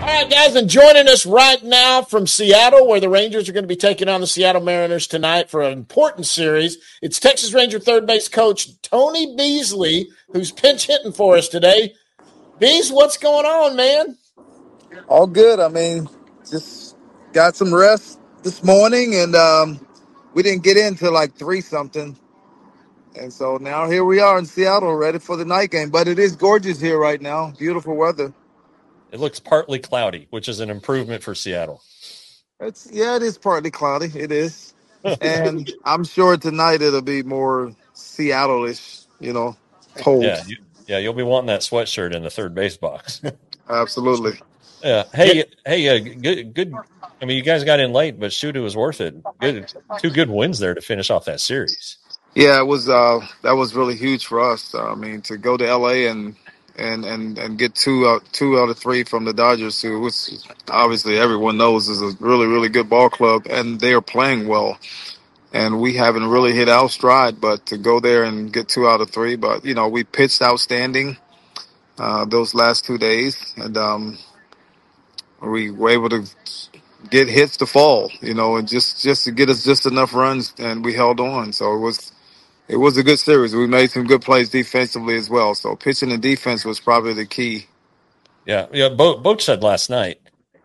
All right, guys, and joining us right now from Seattle, where the Rangers are going to be taking on the Seattle Mariners tonight for an important series, it's Texas Ranger third base coach Tony Beasley, who's pinch hitting for us today. Bees, what's going on, man? All good. I mean, just got some rest this morning, and we didn't get in till like three something, and so now here we are in Seattle, ready for the night game. But it is gorgeous here right now. Beautiful weather. It looks partly cloudy, which is an improvement for Seattle. It is partly cloudy. It is, and I'm sure tonight it'll be more Seattle-ish. Cold. You'll be wanting that sweatshirt in the third base box. Absolutely. Yeah. Hey, good. I mean, you guys got in late, but shoot, it was worth it. Good, two good wins there to finish off that series. Yeah, it was. That was really huge for us. I mean, to go to LA and get two out of three from the Dodgers, which obviously everyone knows is a really good ball club, and they are playing well. And we haven't really hit our stride, but to go there and get two out of three, but we pitched outstanding those last 2 days, and we were able to get hits to fall, and just to get us just enough runs, and we held on. So it was a good series. We made some good plays defensively as well. So pitching and defense was probably the key. Yeah. Boach said last night,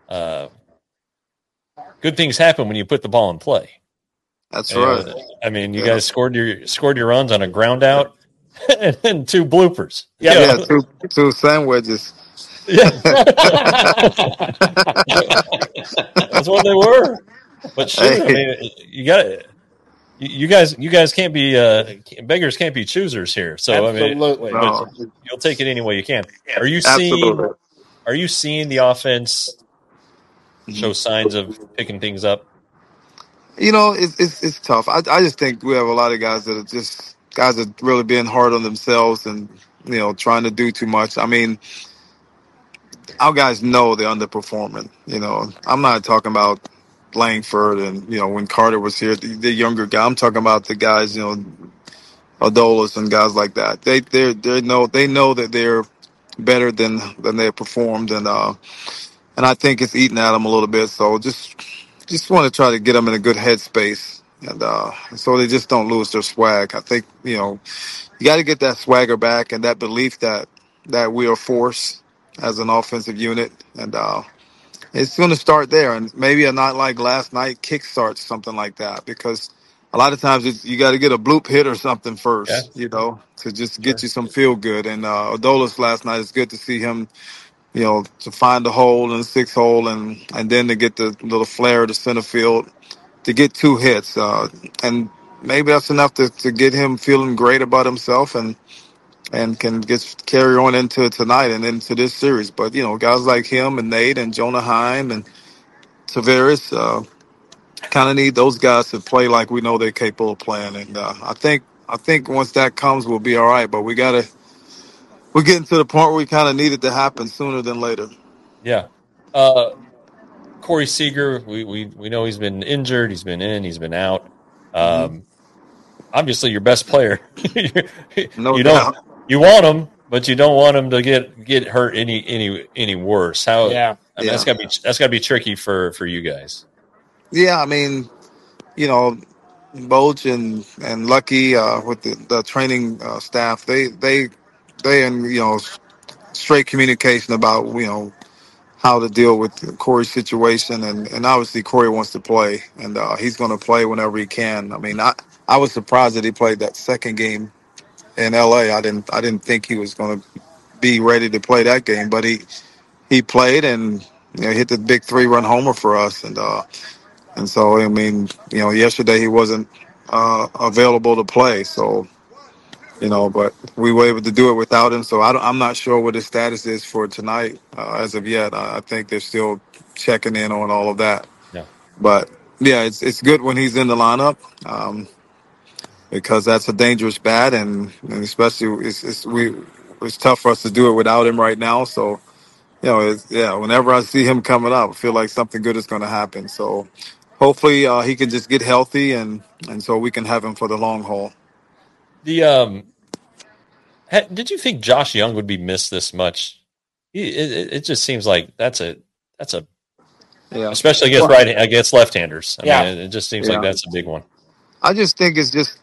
good things happen when you put the ball in play. That's right. I mean, you guys scored your runs on a ground out and two bloopers. Yeah, two sand wedges. Yeah. That's what they were. But shit, I mean, you guys can't be beggars can't be choosers here. So Absolutely. I mean, you'll take it any way you can. Are you seeing the offense show signs of picking things up? It's tough. I just think we have a lot of guys that are really being hard on themselves and trying to do too much. I mean, our guys know they're underperforming. I'm not talking about Langford and when Carter was here, the younger guy. I'm talking about the guys, Adolis and guys like that. They know that they're better than they performed, and I think it's eating at them a little bit. So just want to try to get them in a good headspace, and so they just don't lose their swag. I think you got to get that swagger back and that belief that we are a force as an offensive unit, and it's going to start there. And maybe a night like last night kickstarts something like that, because a lot of times you got to get a bloop hit or something first, to just get you some feel good. And Adolis last night, it's good to see him, to find the hole in the sixth hole and then to get the little flare to center field to get two hits. And maybe that's enough to get him feeling great about himself and can just carry on into tonight and into this series. But, guys like him and Nate and Jonah Heim and Tavares kind of need those guys to play like we know they're capable of playing. And I think once that comes, we'll be all right. But we're getting to the point where we kind of need it to happen sooner than later. Yeah. Corey Seager, we know he's been injured. He's been in, he's been out. Obviously your best player. No doubt. You want him, but you don't want him to get hurt any worse. How? Yeah. I mean, that's gotta be tricky for you guys. Yeah, I mean, Boach and Lucky with the training staff, they in straight communication about how to deal with Corey's situation, and obviously Corey wants to play, and he's going to play whenever he can. I mean, I was surprised that he played that second game in LA. I didn't think he was going to be ready to play that game, but he played and hit the big 3-run homer for us, and so I mean yesterday he wasn't available to play, so but we were able to do it without him. So I'm not sure what his status is for tonight as of yet. I think they're still checking in on all of that. Yeah. But yeah, it's good when he's in the lineup because that's a dangerous bat, and especially it's tough for us to do it without him right now. So whenever I see him coming up, I feel like something good is going to happen. So hopefully he can just get healthy and so we can have him for the long haul. Did you think Josh Young would be missed this much? It just seems like that's a especially against left-handers. I mean, it just seems like that's a big one. I just think it's just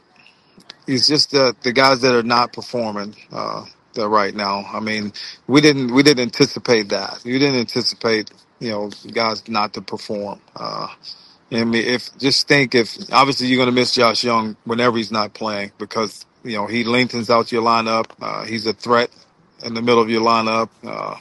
the guys that are not performing right now. I mean, we didn't anticipate that. You didn't anticipate guys not to perform. I mean, if obviously you're going to miss Josh Young whenever he's not playing because he lengthens out your lineup. He's a threat in the middle of your lineup.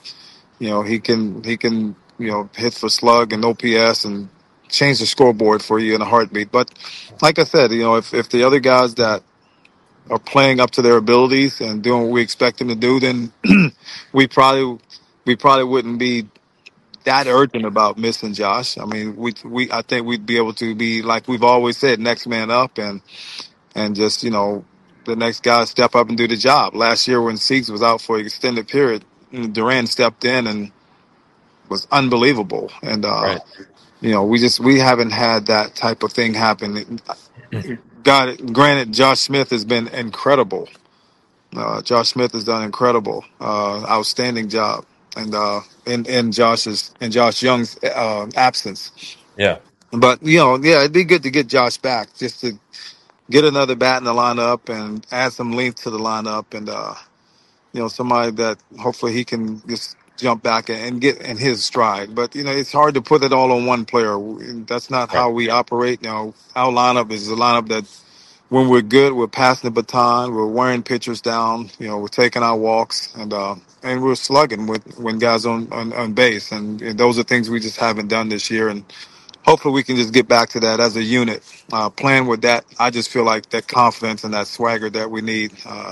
He can hit for slug and OPS and change the scoreboard for you in a heartbeat. But like I said, if the other guys that are playing up to their abilities and doing what we expect them to do, then we probably wouldn't be that urgent about missing Josh. I mean, I think we'd be able to be, like we've always said, next man up and just the next guy step up and do the job. Last year when Siegs was out for an extended period, Duran stepped in and was unbelievable. And Right. we haven't had that type of thing happen. Granted, Josh Smith has been incredible. Josh Smith has done incredible, outstanding job, and in Josh Young's absence. Yeah. But it'd be good to get Josh back, just to get another bat in the lineup and add some length to the lineup, and somebody that hopefully he can just jump back and get in his stride. But it's hard to put it all on one player. That's not how we operate. Our lineup is a lineup that, when we're good, we're passing the baton, we're wearing pitchers down, we're taking our walks, and we're slugging when guys on base, and those are things we just haven't done this year. And hopefully we can just get back to that as a unit, playing with that. I just feel like that confidence and that swagger that we need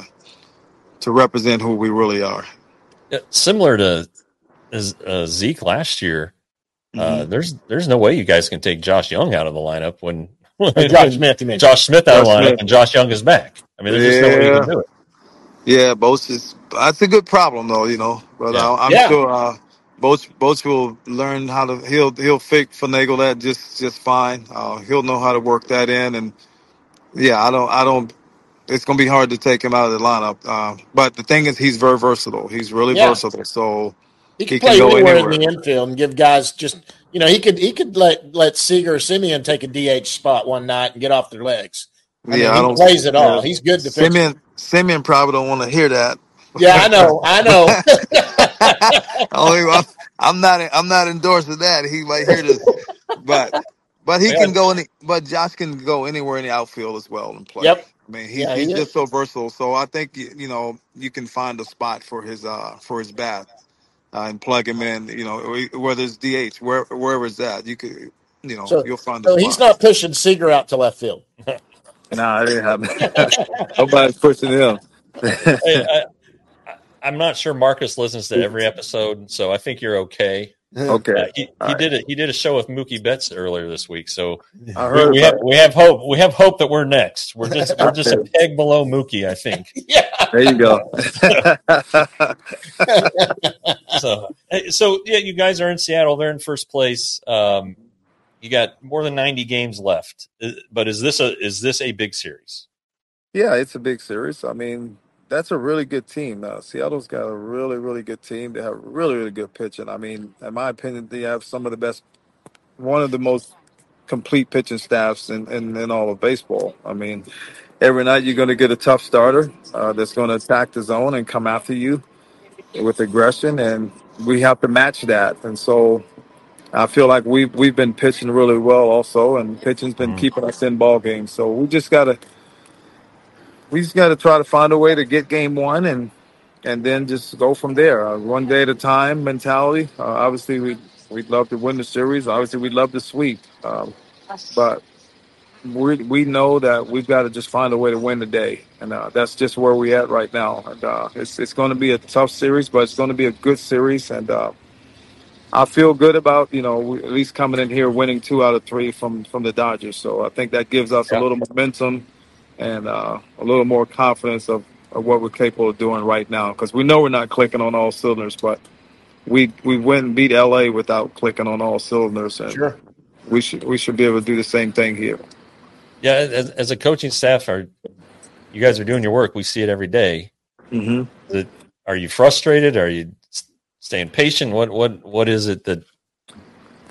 to represent who we really are. Yeah, similar to Zeke last year, there's no way you guys can take Josh Young out of the lineup when Josh Smith out of the lineup and Josh Young is back. I mean, there's just no way you can do it. Yeah, that's a good problem though, but I'm sure Boch will learn how to. He'll finagle that just fine. He'll know how to work that in, and I don't. It's going to be hard to take him out of the lineup. But the thing is, he's very versatile. He's really versatile, so he can play go anywhere in the infield and give guys just. He could let Seager or Simeon take a DH spot one night and get off their legs. I mean, he plays it all. He's good defensively. Simeon probably don't want to hear that. Yeah, I know. I'm not endorsing that. He might hear this, but he can go but Josh can go anywhere in the outfield as well and play. Yep. I mean, he's just so versatile. So I think you can find a spot for his bat and plug him in. Whether it's DH, wherever it's at, you could you'll find. So he's not pushing Seager out to left field. No, it didn't happen. Nobody's pushing him. I'm not sure Marcus listens to every episode, so I think you're okay. Okay. He did a show with Mookie Betts earlier this week, so we have hope. We have hope that we're next. We're just a peg below Mookie, I think. Yeah. There you go. So you guys are in Seattle. They're in first place. You got more than 90 games left, but is this a big series? Yeah, it's a big series. I mean, that's a really good team. Seattle's got a really, really good team. They have really, really good pitching. I mean, in my opinion, they have one of the most complete pitching staffs in all of baseball. I mean, every night you're going to get a tough starter that's going to attack the zone and come after you with aggression, and we have to match that. And so I feel like we've been pitching really well also, and pitching's been keeping us in ball games. So we just got to try to find a way to get game one and then just go from there. One day at a time mentality. Obviously, we'd love to win the series. Obviously, we'd love to sweep. But we know that we've got to just find a way to win the day. And that's just where we're at right now. And it's going to be a tough series, but it's going to be a good series. And I feel good about, at least coming in here winning 2 out of 3 from the Dodgers. So I think that gives us a little momentum and a little more confidence of what we're capable of doing right now, because we know we're not clicking on all cylinders, but we went and beat LA without clicking on all cylinders, and sure, we should be able to do the same thing here. Yeah, as a coaching staff, you guys are doing your work. We see it every day. Mm-hmm. Are you frustrated? Are you staying patient? What is it that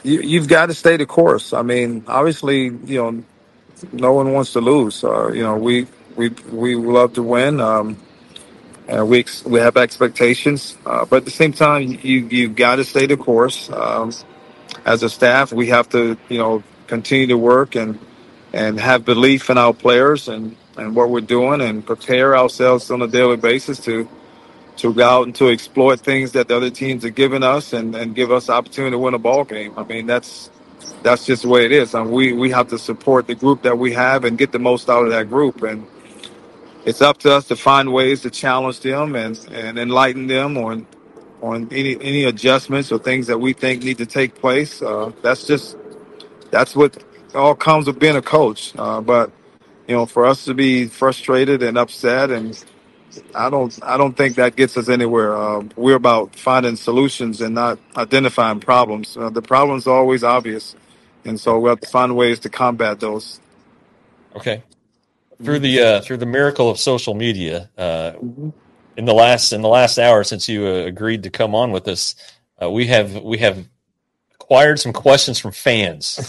you've got to stay the course. I mean, obviously, no one wants to lose. We love to win. And we have expectations, but at the same time, you've got to stay the course. As a staff, we have to continue to work and have belief in our players and what we're doing, and prepare ourselves on a daily basis to go out and to exploit things that the other teams are giving us, and give us the opportunity to win a ball game. I mean, that's just the way it is. And we have to support the group that we have and get the most out of that group. And it's up to us to find ways to challenge them and enlighten them on any adjustments or things that we think need to take place. That's what all comes with being a coach. But for us to be frustrated and upset, and I don't think that gets us anywhere. We're about finding solutions and not identifying problems. The problems are always obvious, and so we have to find ways to combat those. Okay. Through the miracle of social media, in the last hour since you agreed to come on with us, we have acquired some questions from fans.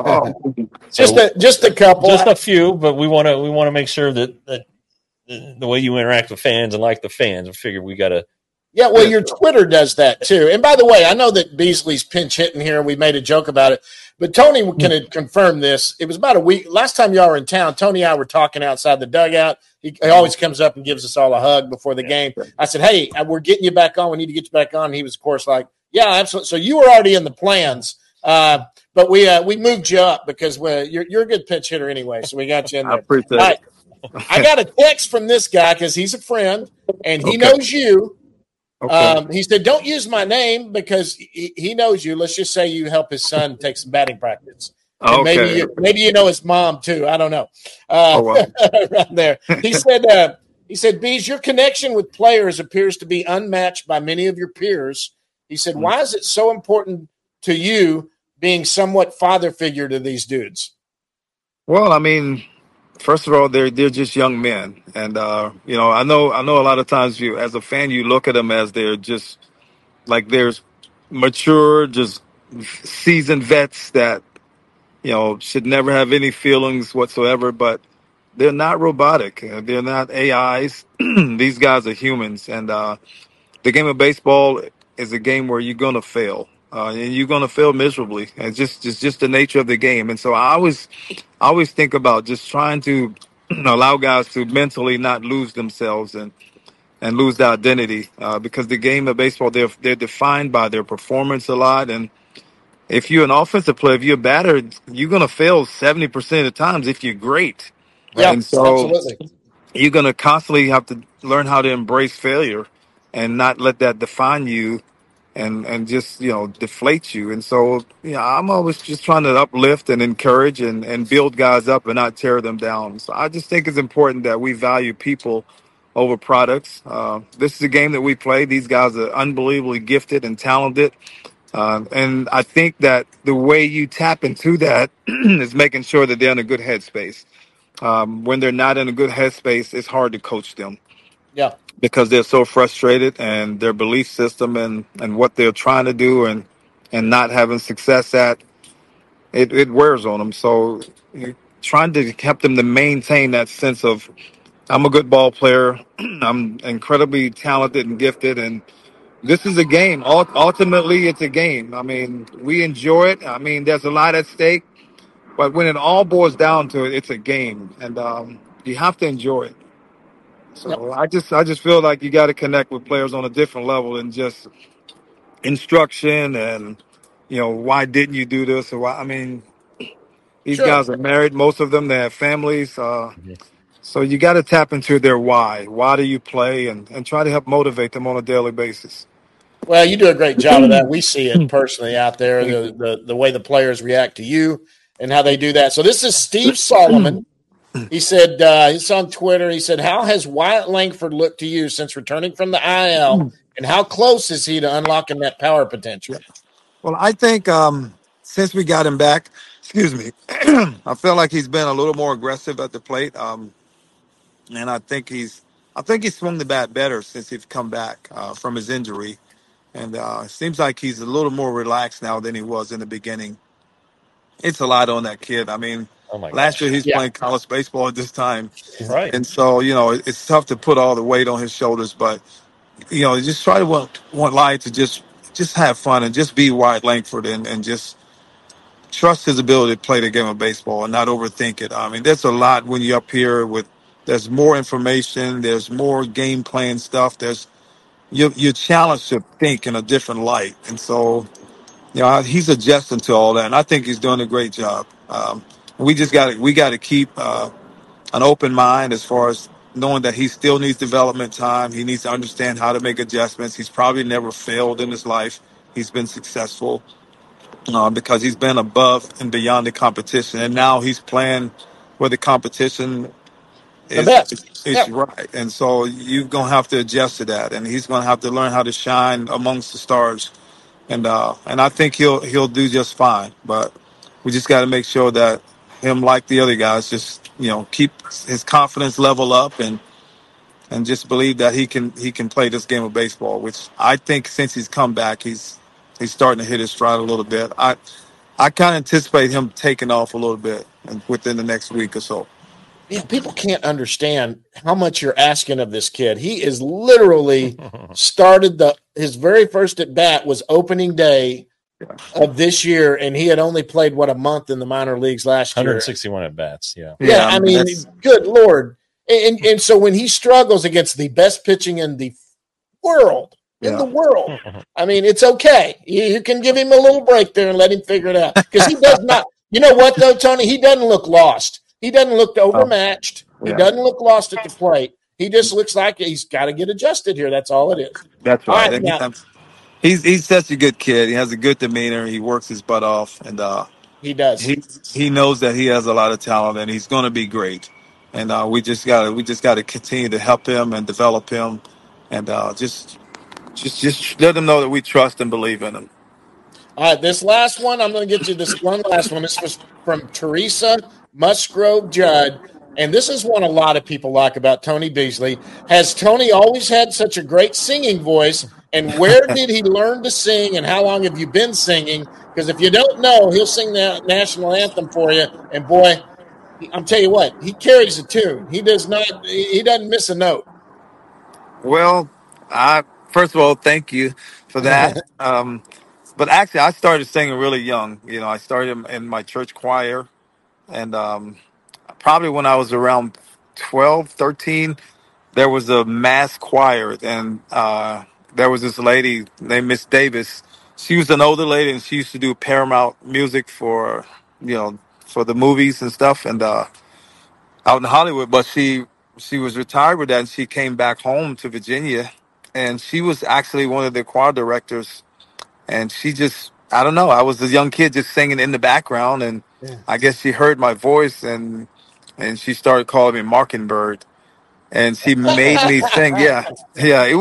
Just a couple, just a few, but we want to make sure that the way you interact with fans and like the fans, I figure we got to. Yeah, well, your Twitter does that too. And by the way, I know that Beasley's pinch hitting here, and we made a joke about it, but Tony can confirm this. It was about a week. Last time y'all were in town, Tony and I were talking outside the dugout. He always comes up and gives us all a hug before the game. I said, hey, we're getting you back on. We need to get you back on. And he was, of course, like, yeah, absolutely. So you were already in the plans, but we moved you up because you're a good pinch hitter anyway, so we got you in there. I appreciate it. I got a text from this guy because he's a friend, and he knows you. Okay. He said, don't use my name because he knows you. Let's just say you help his son take some batting practice. And maybe you know his mom too. I don't know. Wow. Right there. He said, Bees, your connection with players appears to be unmatched by many of your peers. He said, why is it so important to you being somewhat father figure to these dudes? Well, I mean, first of all, they're just young men, and I know a lot of times you, as a fan, you look at them as they're just like there's mature, just seasoned vets that should never have any feelings whatsoever. But they're not robotic. They're not AIs. These guys are humans, and the game of baseball is a game where you're gonna fail, and you're gonna fail miserably. And it's just the nature of the game. And so I always think about just trying to allow guys to mentally not lose themselves and lose their identity, because the game of baseball, they're defined by their performance a lot. And if you're an offensive player, if you're a batter, you're gonna fail 70% of the times if you're great. Yeah, And so absolutely. you're gonna constantly have to learn how to embrace failure and not let that define you and just deflate you. And so I'm always just trying to uplift and encourage and build guys up and not tear them down. So I just think it's important that we value people over products. This is a game that we play. These guys are unbelievably gifted and talented. And I think that the way you tap into that is making sure that they're in a good headspace. When they're not in a good headspace, it's hard to coach them. Yeah. Because they're so frustrated, and their belief system and what they're trying to do and not having success at it wears on them. So you're trying to help them to maintain that sense of, I'm a good ball player, I'm incredibly talented and gifted, and this is a game. Ultimately, it's a game. I mean, we enjoy it. I mean, there's a lot at stake, but when it all boils down to it, it's a game, and you have to enjoy it. So I just feel like you got to connect with players on a different level than just instruction and why didn't you do this or why. I mean, these guys are married, most of them, they have families, so you got to tap into their why do you play, and try to help motivate them on a daily basis. Well, you do a great job of that. We see it personally out there, the way the players react to you and how they do that. So this is Steve Solomon. He said, he's on Twitter. He said, how has Wyatt Langford looked to you since returning from the IL, and how close is he to unlocking that power potential? Well, I think since we got him back, excuse me, I feel like he's been a little more aggressive at the plate, and I think he's swung the bat better since he's come back from his injury. And it seems like he's a little more relaxed now than he was in the beginning. It's a lot on that kid. I mean, Oh my last year gosh. he's playing college baseball at this time, Right. and so it's tough to put all the weight on his shoulders. But just try to want Lai to just have fun and just be Wyatt Langford and just trust his ability to play the game of baseball and not overthink it. I mean, there's a lot when you're up here with. There's more information. There's more game plan stuff. You're challenged to think in a different light, and so he's adjusting to all that, and I think he's doing a great job. We got to keep an open mind as far as knowing that he still needs development time. He needs to understand how to make adjustments. He's probably never failed in his life. He's been successful because he's been above and beyond the competition, and now he's playing where the competition The best. is right. And so you're gonna have to adjust to that, and he's gonna have to learn how to shine amongst the stars. And I think he'll do just fine. But we just got to make sure that him, like the other guys, just keep his confidence level up and just believe that he can play this game of baseball. Which I think since he's come back, he's starting to hit his stride a little bit. I kind of anticipate him taking off a little bit within the next week or so. Yeah, people can't understand how much you're asking of this kid. He is literally started his very first at bat was opening day of this year, and he had only played a month in the minor leagues last year. 161 at bats. Yeah. Yeah, I mean, good Lord. And so when he struggles against the best pitching in the world, I mean, it's okay. You can give him a little break there and let him figure it out, because he does not. You know what, though, Tony? He doesn't look lost. He doesn't look overmatched. He doesn't look lost at the plate. He just looks like he's got to get adjusted here. That's all it is. That's right. All right, he's such a good kid. He has a good demeanor. He works his butt off, and he does. He knows that he has a lot of talent, and he's going to be great. And we just got to continue to help him and develop him, and just let him know that we trust and believe in him. All right, this last one, I'm going to get you this one last one. This was from Teresa Musgrove Judd, and this is one a lot of people like about Tony Beasley. Has Tony always had such a great singing voice, and where did he learn to sing, and how long have you been singing? Because if you don't know, he'll sing the national anthem for you, and boy, I'm tell you what, he carries a tune. He doesn't miss a note. Well, first of all, thank you for that. But actually, I started singing really young. I started in my church choir, and probably when I was around 12, 13, there was a mass choir, and there was this lady named Miss Davis. She was an older lady, and she used to do Paramount music for the movies and stuff, and out in Hollywood. But she was retired with that, and she came back home to Virginia, and she was actually one of the choir directors. And she just, I don't know, I was a young kid just singing in the background, and I guess she heard my voice, and she started calling me Mockingbird, and she made me sing. Yeah. It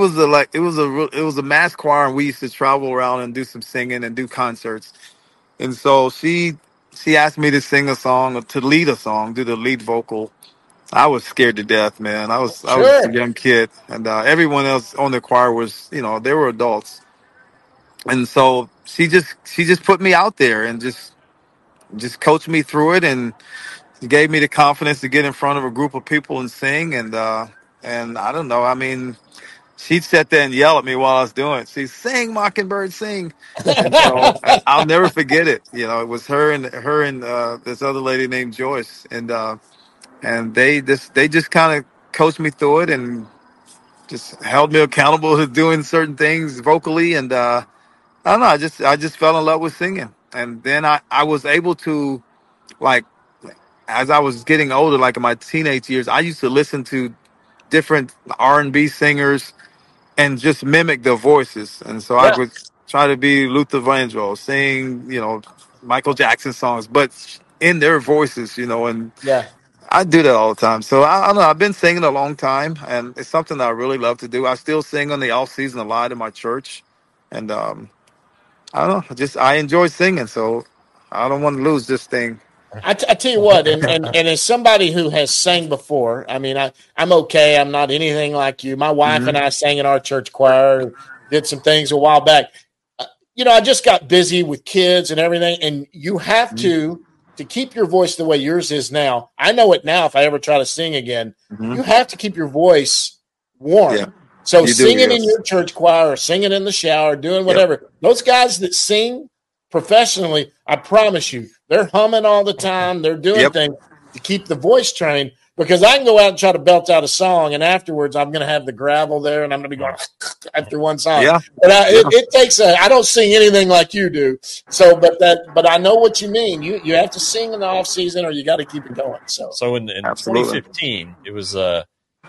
was a mass choir, and we used to travel around and do some singing and do concerts. And so she asked me to sing a song, to lead a song, do the lead vocal. I was scared to death, man. I was a young kid, and everyone else on the choir was, they were adults. And so she just put me out there and just coached me through it, and gave me the confidence to get in front of a group of people and sing. And I don't know. I mean, she'd sit there and yell at me while I was doing it. She'd sing, Mockingbird, sing. And so I'll never forget it. It was her and this other lady named Joyce, and they just kind of coached me through it and just held me accountable to doing certain things vocally. And I don't know. I just fell in love with singing, and then I was able to, like, as I was getting older, like in my teenage years, I used to listen to different R&B singers and just mimic their voices. And so I would try to be Luther Vandross, sing, Michael Jackson songs, but in their voices, and I do that all the time. So I don't know. I've been singing a long time, and it's something that I really love to do. I still sing on the off season a lot in my church, and I don't know. I enjoy singing, so I don't want to lose this thing. I tell you what, and as somebody who has sang before, I mean, I'm okay. I'm not anything like you. My wife and I sang in our church choir did some things a while back. I just got busy with kids and everything, and you have to keep your voice the way yours is now. I know it now. If I ever try to sing again, you have to keep your voice warm. Yeah. So singing in your church choir or singing in the shower, doing whatever, those guys that sing professionally, I promise you, they're humming all the time. They're doing things to keep the voice trained, because I can go out and try to belt out a song, and afterwards I'm going to have the gravel there, and I'm going to be going after one song. Yeah. But it takes I don't sing anything like you do. So, but I know what you mean. You have to sing in the off season, or you got to keep it going. So in 2015, it was the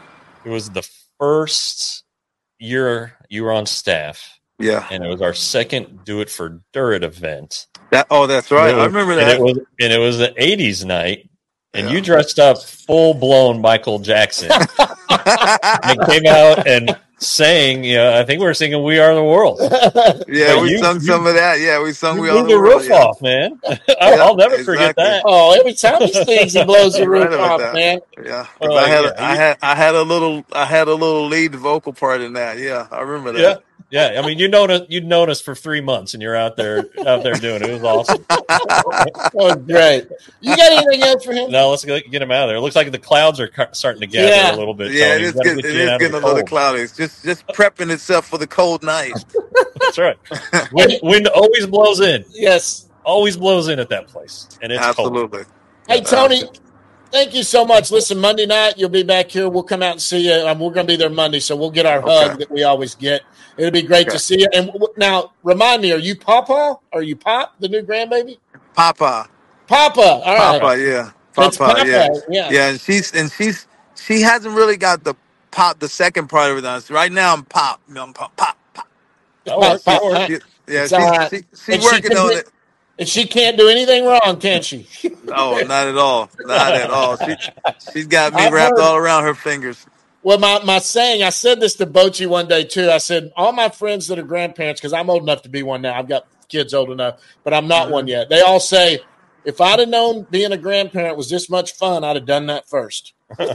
first year you were on staff. Yeah. And it was our second Do It for Durrett event. That's right. I remember that. And it was the 80s night. And you dressed up full-blown Michael Jackson. And came out and sang, I think we were singing We Are the World. Yeah, we sung some of that. Yeah, we sung We Are the World. Blew the roof off, man. I'll never forget that. Oh, every time he sings, he blows the roof off, man. Yeah. I had a little lead vocal part in that. Yeah, I remember that. Yeah. Yeah, I mean, you'd known us for 3 months, and you're out there doing it. It was awesome. Oh, great! You got anything else for him? No, let's get him out of there. It looks like the clouds are starting to gather a little bit. Yeah, it is getting a little cloudy. It's just prepping itself for the cold night. That's right. Wind always blows in. Yes, always blows in at that place, and it's absolutely. Cold. Hey, Tony. Thank you so much. Listen, Monday night, you'll be back here. We'll come out and see you. We're going to be there Monday, so we'll get our hug that we always get. It'll be great to see you. And now, remind me, are you Papa? Are you Pop, the new grandbaby? Papa. All right. Papa, yeah. Papa, yeah. And she hasn't really got the second part of it done. So right now, I'm Pop. I'm Pop. Yeah, she's working on it. And she can't do anything wrong, can she? No, not at all. Not at all. She's got me wrapped all around her fingers. Well, my saying, I said this to Bochy one day, too. I said, all my friends that are grandparents, because I'm old enough to be one now. I've got kids old enough, but I'm not one yet. They all say, if I'd have known being a grandparent was this much fun, I'd have done that first.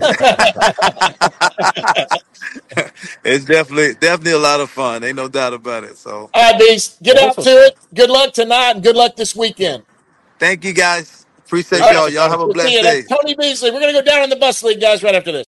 It's definitely a lot of fun. Ain't no doubt about it. So, all right, Beast, get out to it. Good luck tonight and good luck this weekend. Thank you, guys. Appreciate y'all. Y'all have a blessed day. Tony Beasley. We're going to go down in the bus league, guys, right after this.